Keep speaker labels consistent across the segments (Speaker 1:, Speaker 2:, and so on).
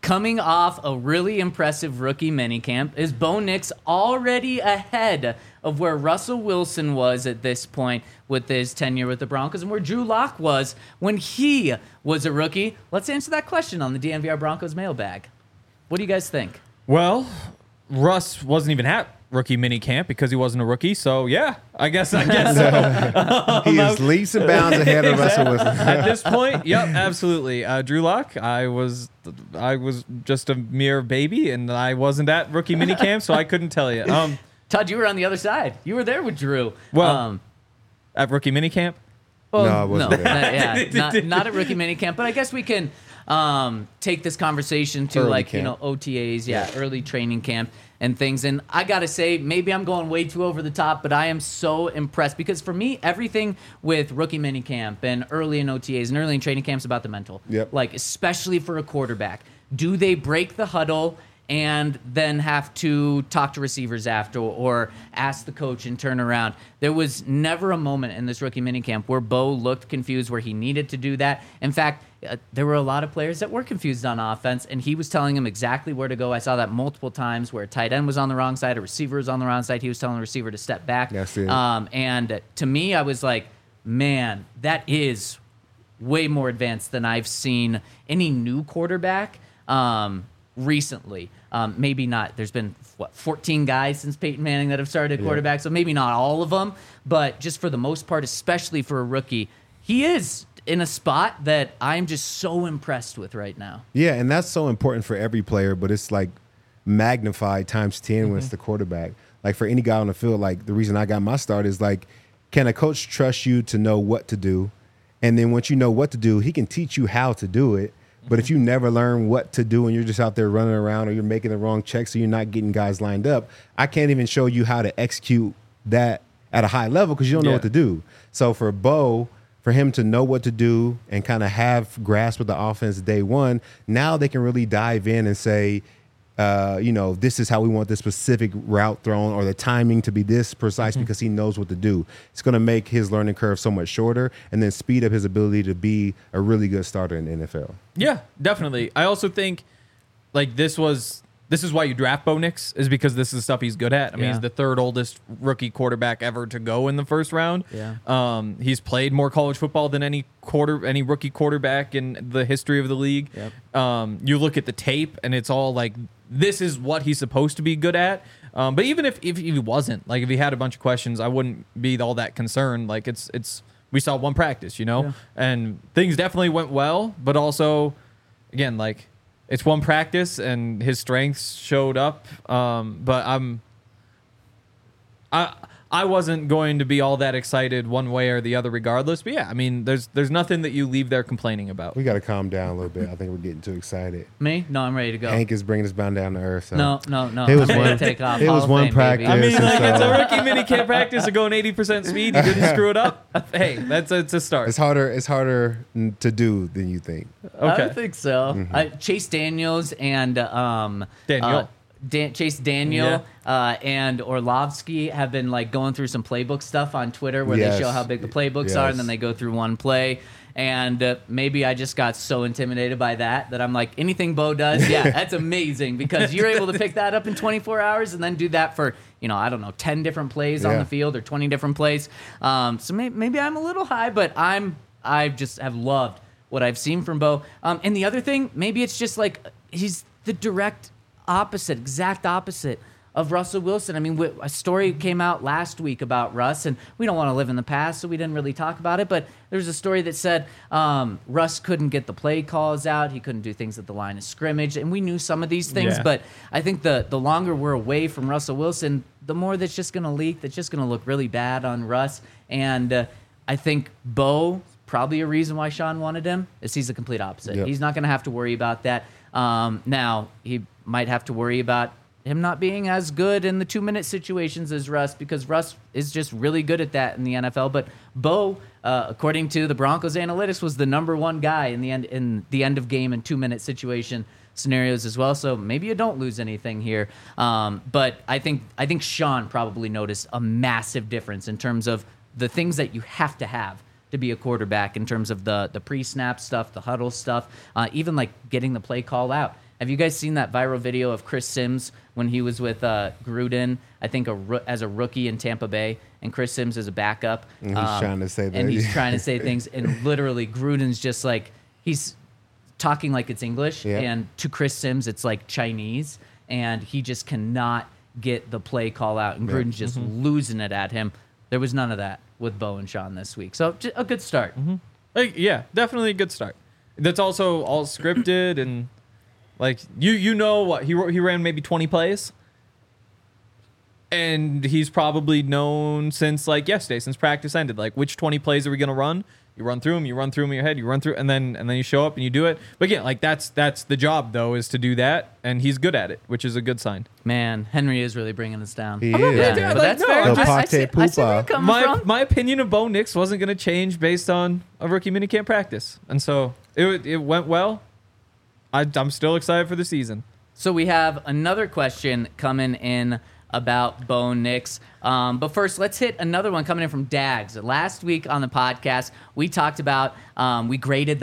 Speaker 1: Coming off a really impressive rookie minicamp, is Bo Nix already ahead of where Russell Wilson was at this point with his tenure with the Broncos and where Drew Lock was when he was a rookie? Let's answer that question on the DNVR Broncos mailbag. What do you guys think?
Speaker 2: Well, Russ wasn't even at rookie mini camp because he wasn't a rookie. So yeah, I guess so.
Speaker 3: He is leaps and bounds ahead of Russell Wilson.
Speaker 2: At this point, yep, absolutely. Drew Lock, I was just a mere baby, and I wasn't at rookie mini camp, so I couldn't tell you.
Speaker 1: Todd, you were on the other side. You were there with Drew.
Speaker 2: Well, at rookie mini camp.
Speaker 3: No, I wasn't there.
Speaker 1: Not at rookie minicamp, but I guess we can take this conversation to
Speaker 3: Early camp.
Speaker 1: OTAs, early training camp and things. And I got to say, maybe I'm going way too over the top, but I am so impressed because for me, everything with rookie minicamp and early in OTAs and early in training camps about the mental.
Speaker 3: Yep.
Speaker 1: Like, especially for a quarterback. Do they break the huddle and then have to talk to receivers after or ask the coach and turn around? There was never a moment in this rookie minicamp where Bo looked confused, where he needed to do that. In fact, there were a lot of players that were confused on offense, and he was telling them exactly where to go. I saw that multiple times where a tight end was on the wrong side, a receiver was on the wrong side. He was telling the receiver to step back.
Speaker 3: That's it.
Speaker 1: And to me, I was like, man, that is way more advanced than I've seen any new quarterback recently. Maybe not. There's been, 14 guys since Peyton Manning that have started at quarterback, so maybe not all of them, but just for the most part, especially for a rookie, he is in a spot that I'm just so impressed with right now.
Speaker 3: Yeah, and that's so important for every player, but it's like magnified times 10 when it's the quarterback. Like for any guy on the field, like the reason I got my start is like, can a coach trust you to know what to do? And then once you know what to do, he can teach you how to do it. But if you never learn what to do and you're just out there running around or you're making the wrong checks or you're not getting guys lined up, I can't even show you how to execute that at a high level because you don't know what to do. So for Bo, for him to know what to do and kind of have grasp of the offense day one, now they can really dive in and say, this is how we want this specific route thrown or the timing to be this precise because he knows what to do. It's going to make his learning curve so much shorter and then speed up his ability to be a really good starter in the NFL.
Speaker 2: Yeah, definitely. I also think like this is why you draft Bo Nix, is because this is stuff he's good at. I mean, he's the third oldest rookie quarterback ever to go in the first round.
Speaker 1: Yeah.
Speaker 2: He's played more college football than any rookie quarterback in the history of the league.
Speaker 1: Yep.
Speaker 2: You look at the tape and it's all like, this is what he's supposed to be good at. But even if he wasn't, like if he had a bunch of questions, I wouldn't be all that concerned. Like we saw one practice, and things definitely went well, but also again, like, it's one practice, and his strengths showed up. But I wasn't going to be all that excited one way or the other, regardless. But yeah, I mean, there's nothing that you leave there complaining about.
Speaker 3: We got to calm down a little bit. I think we're getting too excited.
Speaker 1: Me? No, I'm ready to go.
Speaker 3: Hank is bringing us down to earth. So.
Speaker 1: No.
Speaker 3: It was
Speaker 1: I'm ready
Speaker 3: one.
Speaker 1: to take off.
Speaker 3: It
Speaker 1: Hall
Speaker 3: was
Speaker 1: of
Speaker 3: one
Speaker 1: Fame,
Speaker 3: practice.
Speaker 1: baby.
Speaker 2: I mean, like, it's a
Speaker 3: so-
Speaker 2: rookie minicamp practice of going 80% speed. He didn't screw it up. Hey, it's a start.
Speaker 3: It's harder to do than you think.
Speaker 2: Okay.
Speaker 1: I think so. Chase Daniels and
Speaker 2: Daniel.
Speaker 1: Chase Daniel and Orlovsky have been like going through some playbook stuff on Twitter where they show how big the playbooks are, and then they go through one play. And maybe I just got so intimidated by that I'm like, anything Bo does, that's amazing because you're able to pick that up in 24 hours and then do that for, 10 different plays on the field or 20 different plays. So maybe I'm a little high, but I just have loved what I've seen from Bo. And the other thing, maybe it's just like he's the exact opposite of Russell Wilson. I mean, a story came out last week about Russ, and we don't want to live in the past, so we didn't really talk about it, but there's a story that said Russ couldn't get the play calls out, he couldn't do things at the line of scrimmage, and we knew some of these things, but I think the longer we're away from Russell Wilson, the more that's just going to leak, that's just going to look really bad on Russ, and I think Bo, probably a reason why Sean wanted him, is he's the complete opposite.
Speaker 3: Yep.
Speaker 1: He's not going to have to worry about that. Now, he might have to worry about him not being as good in the 2-minute situations as Russ because Russ is just really good at that in the NFL. But Bo, according to the Broncos analytics, was the number one guy in the end of game and 2-minute situation scenarios as well. So maybe you don't lose anything here. But I think Sean probably noticed a massive difference in terms of the things that you have to be a quarterback in terms of the pre-snap stuff, the huddle stuff, even like getting the play call out. Have you guys seen that viral video of Chris Sims when he was with Gruden, I think as a rookie in Tampa Bay, and Chris Sims is a backup?
Speaker 3: And he's trying to say that.
Speaker 1: And he's trying to say things, and literally Gruden's just like, he's talking like it's English, and to Chris Sims it's like Chinese, and he just cannot get the play call out, and Gruden's just losing it at him. There was none of that with Bo and Sean this week. So a good start.
Speaker 2: Like, yeah, definitely a good start. That's also all scripted, and like you know what he ran maybe 20 plays, and he's probably known since like yesterday, since practice ended, like which 20 plays are we gonna run? You run through them in your head, you run through, and then you show up and you do it. But again, like that's the job though, is to do that, and he's good at it, which is a good sign.
Speaker 1: Man, Henry is really bringing us down.
Speaker 3: He is.
Speaker 1: Yeah, but that's fair. I see where you're coming from.
Speaker 2: My opinion of Bo Nix wasn't going to change based on a rookie minicamp practice, and so it went well. I'm still excited for the season.
Speaker 1: So we have another question coming in about Bo Nix. But first, let's hit another one coming in from Dags. Last week on the podcast, we talked about we graded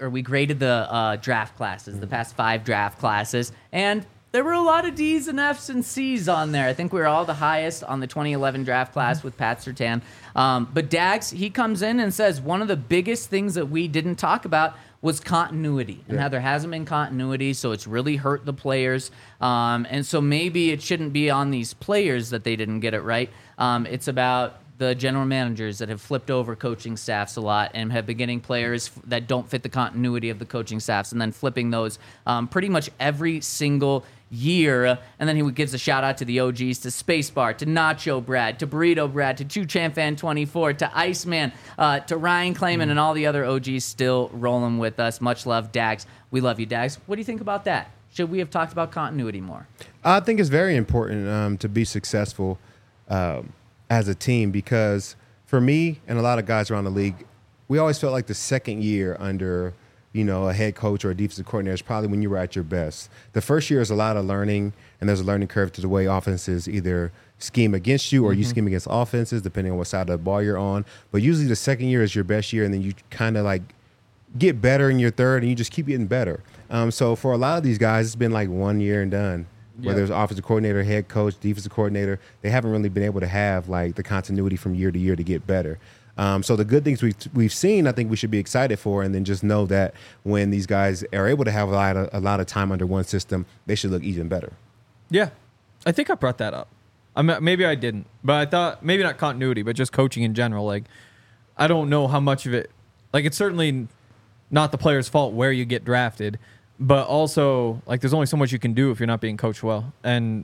Speaker 1: the draft classes, the past 5 draft classes, and there were a lot of D's and F's and C's on there. I think we were all the highest on the 2011 draft class with Pat Surtain. But Dags, he comes in and says one of the biggest things that we didn't talk about was continuity, and how there hasn't been continuity, so it's really hurt the players. And so maybe it shouldn't be on these players that they didn't get it right. It's about the general managers that have flipped over coaching staffs a lot and have been getting players that don't fit the continuity of the coaching staffs and then flipping those pretty much every single year. And then he gives a shout out to the OGs, to Spacebar, to Nacho Brad, to Burrito Brad, to Chu Champ Fan 24, to Iceman, to Ryan Clayman, and all the other OGs still rolling with us. Much love, Dags. We love you, Dags. What do you think about that? Should we have talked about continuity more?
Speaker 3: I think it's very important to be successful as a team, because for me and a lot of guys around the league, we always felt like the second year under a head coach or a defensive coordinator is probably when you were at your best. The first year is a lot of learning, and there's a learning curve to the way offenses either scheme against you or you scheme against offenses, depending on what side of the ball you're on. But usually the second year is your best year, and then you kind of like get better in your third, and you just keep getting better. So for a lot of these guys, it's been like 1 year and done. Whether it's offensive coordinator, head coach, defensive coordinator, they haven't really been able to have like the continuity from year to year to get better. So the good things we've seen, I think we should be excited for, and then just know that when these guys are able to have a lot of time under one system, they should look even better.
Speaker 2: Yeah, I think I brought that up. Maybe I didn't, but I thought maybe not continuity, but just coaching in general. Like, I don't know how much of it. Like, it's certainly not the player's fault where you get drafted, but also like there's only so much you can do if you're not being coached well, and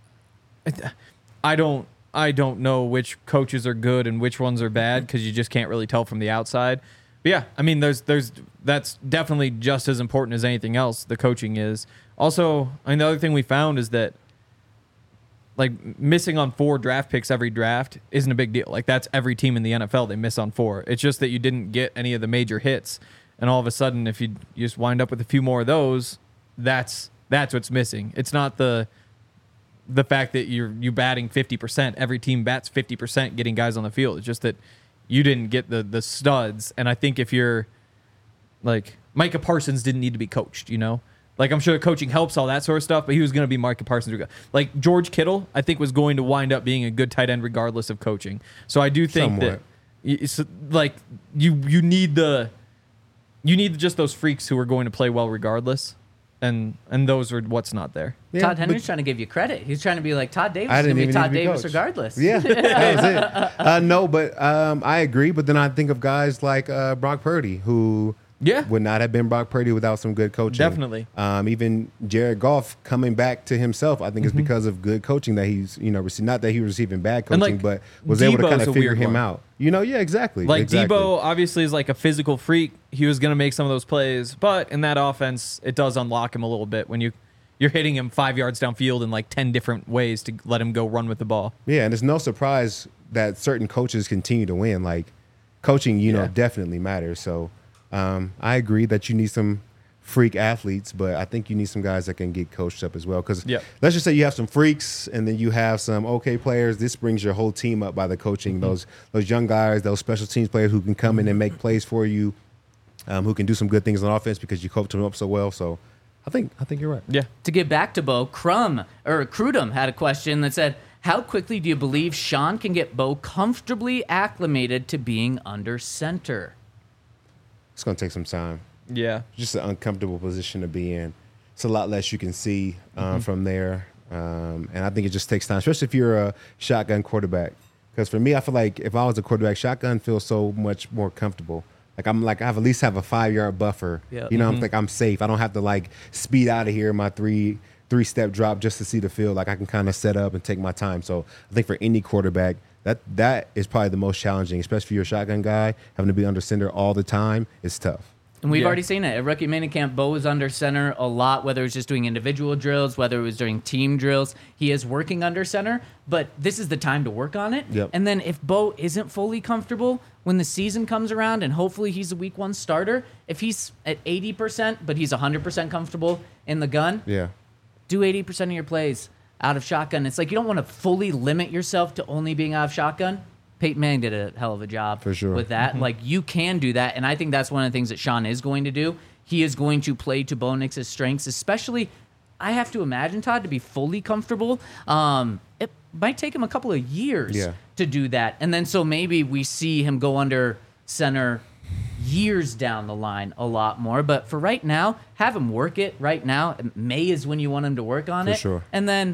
Speaker 2: I don't know which coaches are good and which ones are bad because you just can't really tell from the outside. But yeah, I mean, that's definitely just as important as anything else. The coaching is also. I mean, the other thing we found is that like missing on 4 draft picks every draft isn't a big deal. Like that's every team in the NFL, they miss on 4. It's just that you didn't get any of the major hits, and all of a sudden, if you just wind up with a few more of those, that's what's missing. It's not the fact that you batting 50%. Every team bats 50% getting guys on the field. It's just that you didn't get the studs. And I think if you're like Micah Parsons didn't need to be coached, Like I'm sure coaching helps all that sort of stuff, but he was going to be Micah Parsons. Like George Kittle, I think was going to wind up being a good tight end regardless of coaching. So I do think that it's like you need just those freaks who are going to play well regardless. And those are what's not there.
Speaker 1: Yeah, Todd Henry's trying to give you credit. He's trying to be like Todd Davis. Is going to be Todd Davis regardless.
Speaker 3: Yeah, that was it. No, but I agree. But then I think of guys like Brock Purdy, who would not have been Brock Purdy without some good coaching.
Speaker 2: Definitely.
Speaker 3: Even Jared Goff coming back to himself, I think it's because of good coaching that he's not that he was receiving bad coaching, but was able to kind of figure him out. Yeah, exactly.
Speaker 2: Like exactly. Debo obviously is like a physical freak. He was going to make some of those plays, but in that offense, it does unlock him a little bit when you're hitting him 5 yards downfield in like 10 different ways to let him go run with the ball.
Speaker 3: Yeah, and it's no surprise that certain coaches continue to win. Like coaching, definitely matters. So I agree that you need some freak athletes, but I think you need some guys that can get coached up as well. Because let's just say you have some freaks and then you have some okay players. This brings your whole team up by the coaching. Those young guys, those special teams players who can come in and make plays for you, who can do some good things on offense because you coach them up so well. So I think you're right.
Speaker 2: Yeah.
Speaker 1: To get back to Bo, Crudum had a question that said, how quickly do you believe Sean can get Bo comfortably acclimated to being under center?
Speaker 3: It's going to take some time.
Speaker 2: Yeah.
Speaker 3: Just an uncomfortable position to be in. It's a lot less you can see from there. And I think it just takes time, especially if you're a shotgun quarterback. Because for me, I feel like if I was a quarterback, shotgun feels so much more comfortable. Like I have at least have a 5-yard buffer.
Speaker 1: Yep.
Speaker 3: You know, I'm like I'm safe. I don't have to like speed out of here in my three-step drop just to see the field. Like I can kind of set up and take my time. So I think for any quarterback, that is probably the most challenging, especially if you're a shotgun guy, having to be under center all the time is tough.
Speaker 1: And we've already seen it. At rookie minicamp, Bo was under center a lot, whether it was just doing individual drills, whether it was during team drills. He is working under center, but this is the time to work on it.
Speaker 3: Yep.
Speaker 1: And then if Bo isn't fully comfortable, when the season comes around, and hopefully he's a week 1 starter, if he's at 80%, but he's 100% comfortable in the gun, do 80% of your plays out of shotgun. It's like you don't want to fully limit yourself to only being out of shotgun. Peyton Manning did a hell of a job
Speaker 3: for sure
Speaker 1: with that. Like, you can do that, and I think that's one of the things that Sean is going to do. He is going to play to Bo Nix's strengths, especially, I have to imagine, Todd, to be fully comfortable. It might take him a couple of years to do that, and then so maybe we see him go under center years down the line a lot more. But for right now, have him work it right now. May is when you want him to work on it.
Speaker 3: For sure.
Speaker 1: And then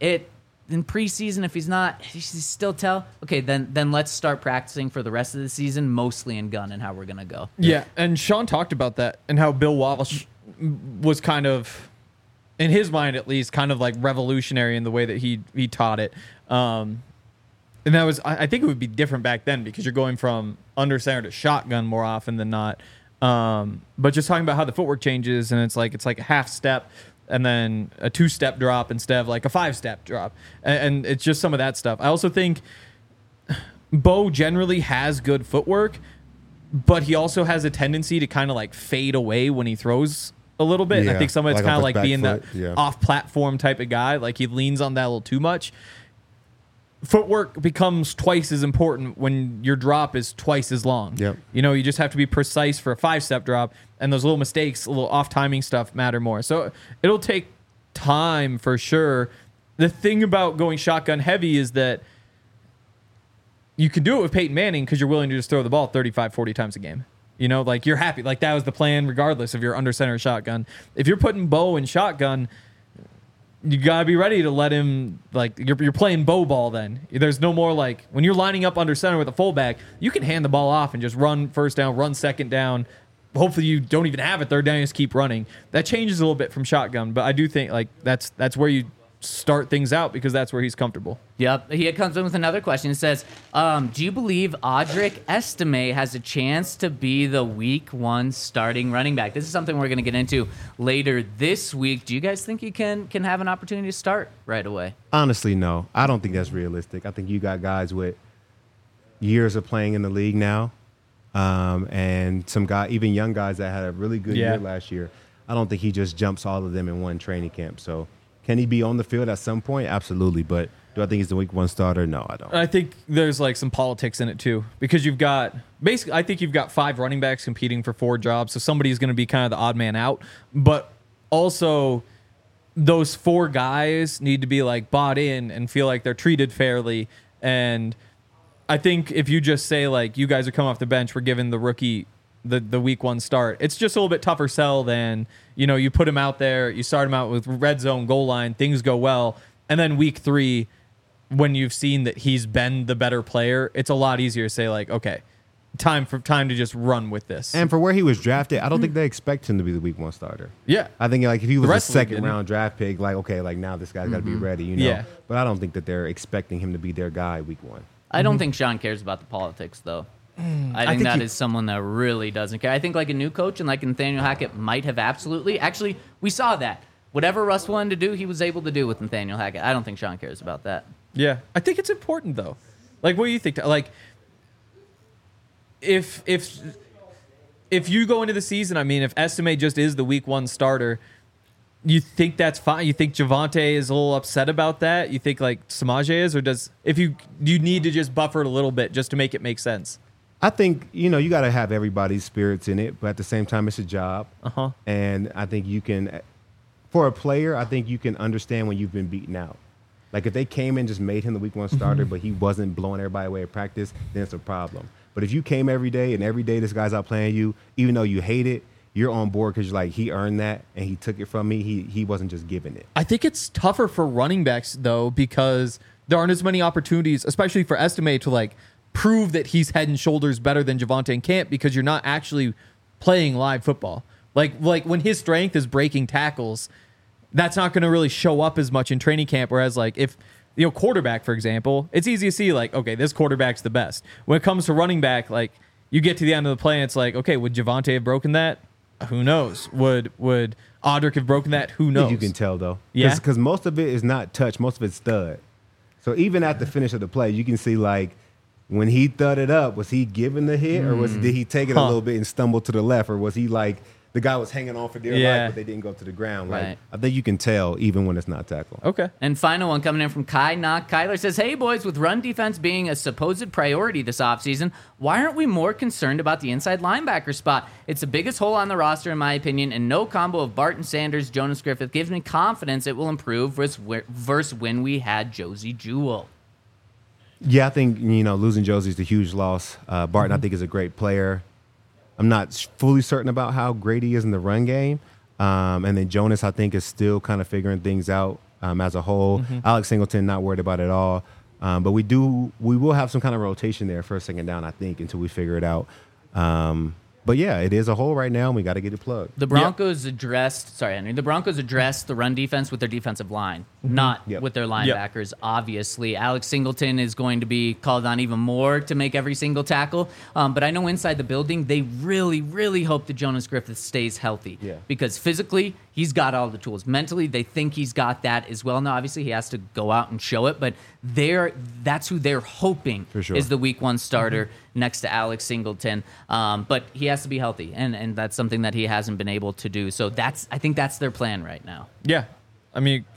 Speaker 1: in preseason, if he's not, he's still okay, then let's start practicing for the rest of the season, mostly in gun and how we're going to go.
Speaker 2: Yeah, and Sean talked about that and how Bill Walsh was kind of, in his mind at least, kind of like revolutionary in the way that he taught it. And that was, I think it would be different back then because you're going from under center to shotgun more often than not. But just talking about how the footwork changes, and it's like a half step and then a 2-step drop instead of like a 5-step drop. And it's just some of that stuff. I also think Bo generally has good footwork, but he also has a tendency to kind of like fade away when he throws a little bit. And I think some of it's kind of like being the off-platform type of guy. Like he leans on that a little too much. Footwork becomes twice as important when your drop is twice as long.
Speaker 3: Yep.
Speaker 2: You know, you just have to be precise for a 5-step drop, and those little mistakes, a little off-timing stuff matter more. So it'll take time for sure. The thing about going shotgun heavy is that you can do it with Peyton Manning because you're willing to just throw the ball 35, 40 times a game. You know, like you're happy. Like that was the plan regardless if you're under center shotgun. If you're putting Bo in shotgun, you got to be ready to let him, like, you're playing Bo ball then. There's no more, like, when you're lining up under center with a fullback, you can hand the ball off and just run first down, run second down. Hopefully you don't even have it third down, you just keep running. That changes a little bit from shotgun, but I do think, like, that's where you start things out because that's where he's comfortable.
Speaker 1: Yep. He comes in with another question. It says, do you believe Audric Estime has a chance to be the week 1 starting running back? This is something we're going to get into later this week. Do you guys think he can have an opportunity to start right away?
Speaker 3: Honestly, no. I don't think that's realistic. I think you got guys with years of playing in the league now, and some guy, even young guys that had a really good year last year. I don't think he just jumps all of them in one training camp. So can he be on the field at some point? Absolutely. But do I think he's the week 1 starter? No, I don't.
Speaker 2: I think there's like some politics in it too because you've got basically, I think you've got 5 running backs competing for 4 jobs. So somebody's going to be kind of the odd man out. But also those 4 guys need to be like bought in and feel like they're treated fairly. And I think if you just say like, you guys are coming off the bench, we're giving the rookie the week 1 start, it's just a little bit tougher sell than, you know, you put him out there, you start him out with red zone goal line, things go well, and then week 3, when you've seen that he's been the better player, it's a lot easier to say like, okay, time to just run with this.
Speaker 3: And for where he was drafted, I don't think they expect him to be the week 1 starter.
Speaker 2: Yeah,
Speaker 3: I think like if he was a second round draft pick, like okay, like now this guy's got to be ready, you know.
Speaker 2: Yeah.
Speaker 3: But I don't think that they're expecting him to be their guy week 1.
Speaker 1: I don't think Sean cares about the politics though. I think that is someone that really doesn't care. I think like a new coach and like Nathaniel Hackett might have absolutely. Actually, we saw that. Whatever Russ wanted to do, he was able to do with Nathaniel Hackett. I don't think Sean cares about that.
Speaker 2: Yeah, I think it's important though. Like, what do you think? Like, if you go into the season, I mean, if Estime just is the week 1 starter, you think that's fine? You think Javonte is a little upset about that? You think like Samaje is, or do you need to just buffer it a little bit just to make it make sense?
Speaker 3: I think, you know, you got to have everybody's spirits in it, but at the same time, it's a job.
Speaker 2: Uh-huh.
Speaker 3: And I think you can for a player, I think you can understand when you've been beaten out. Like if they came in just made him the week 1 starter, but he wasn't blowing everybody away at practice, then it's a problem. But if you came every day and every day this guy's out playing you, even though you hate it, you're on board because you're like, he earned that and he took it from me. He wasn't just giving it.
Speaker 2: I think it's tougher for running backs though, because there aren't as many opportunities, especially for Estime, to like prove that he's head and shoulders better than Javonte and Camp, because you're not actually playing live football. Like when his strength is breaking tackles, that's not going to really show up as much in training camp. Whereas like if, quarterback, for example, it's easy to see like, okay, this quarterback's the best. When it comes to running back, like you get to the end of the play and it's like, okay, would Javonte have broken that? Who knows? Would Audric have broken that? Who knows?
Speaker 3: You can tell though.
Speaker 2: Yeah.
Speaker 3: Because most of it is not touch. Most of it's stud. So even at the finish of the play, you can see like when he thudded up, was he giving the hit or did he take it a little bit and stumble to the left? Or was he like, the guy was hanging on for dear life, but they didn't go to the ground. Like
Speaker 1: Right.
Speaker 3: I think you can tell even when it's not tackled.
Speaker 2: Okay.
Speaker 1: And final one coming in from Kai Knock. Kyler says, hey, boys, with run defense being a supposed priority this offseason, why aren't we more concerned about the inside linebacker spot? It's the biggest hole on the roster, in my opinion, and no combo of Barton Sanders, Jonas Griffith gives me confidence it will improve versus when we had Josie Jewell.
Speaker 3: Yeah, I think, losing Josie is a huge loss. Barton, I think, is a great player. I'm not fully certain about how great he is in the run game. And then Jonas, I think, is still kind of figuring things out as a whole. Alex Singleton, not worried about it at all. But we will have some kind of rotation there first, second down, I think, until we figure it out. But yeah, it is a hole right now, and we got to get it plugged.
Speaker 1: The Broncos addressed the run defense with their defensive line, not with their linebackers, obviously. Alex Singleton is going to be called on even more to make every single tackle. But I know inside the building, they really, really hope that Jonas Griffith stays healthy.
Speaker 3: Yeah.
Speaker 1: Because physically, he's got all the tools. Mentally, they think he's got that as well. Now, obviously, he has to go out and show it, but that's who they're hoping
Speaker 3: For sure.
Speaker 1: is the week 1 starter next to Alex Singleton. But he has to be healthy, and that's something that he hasn't been able to do. So I think that's their plan right now.
Speaker 2: Yeah. I mean,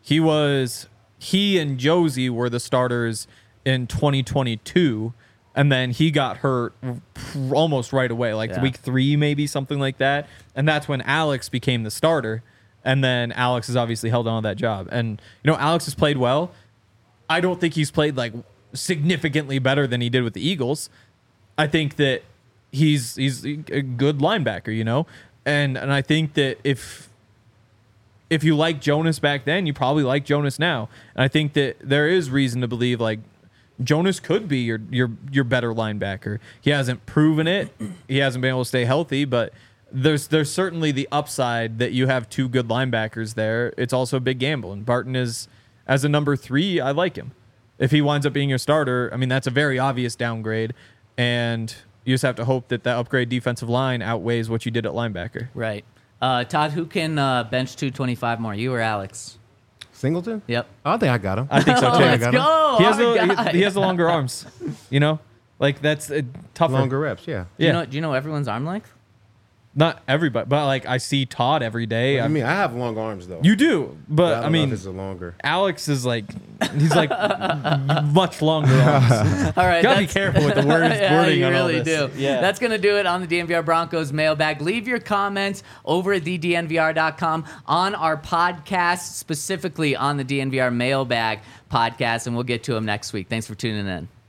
Speaker 2: he and Josie were the starters in 2022, and then he got hurt almost right away, like week 3, maybe something like that. And that's when Alex became the starter. And then Alex has obviously held on to that job. And, Alex has played well. I don't think he's played like significantly better than he did with the Eagles. I think that he's a good linebacker, and I think that if you like Jonas back then, you probably like Jonas now. And I think that there is reason to believe like Jonas could be your better linebacker. He hasn't proven it. He hasn't been able to stay healthy, but there's certainly the upside that you have 2 good linebackers there. It's also a big gamble, and Barton is, as a number 3, I like him. If he winds up being your starter, I mean, that's a very obvious downgrade, and you just have to hope that upgrade defensive line outweighs what you did at linebacker.
Speaker 1: Right. Todd, who can bench 225 more, you or Alex?
Speaker 3: Singleton?
Speaker 1: Yep.
Speaker 3: I think I got him.
Speaker 2: I think so too.
Speaker 1: Let's go.
Speaker 2: He has the longer arms, like that's tougher.
Speaker 3: Longer reps, yeah.
Speaker 1: Do you know everyone's arm length?
Speaker 2: Not everybody, but like I see Todd every day.
Speaker 3: I mean, I have long arms though.
Speaker 2: You do, but
Speaker 3: I
Speaker 2: I
Speaker 3: don't
Speaker 2: mean,
Speaker 3: know if it's a longer.
Speaker 2: Alex is like, he's like much longer arms.
Speaker 1: All right,
Speaker 2: Gotta be careful with the wording
Speaker 1: you
Speaker 2: on
Speaker 1: really
Speaker 2: all this.
Speaker 1: do.
Speaker 2: Yeah.
Speaker 1: That's gonna do it on the DNVR Broncos mailbag. Leave your comments over at thednvr.com on our podcast, specifically on the DNVR mailbag podcast, and we'll get to them next week. Thanks for tuning in.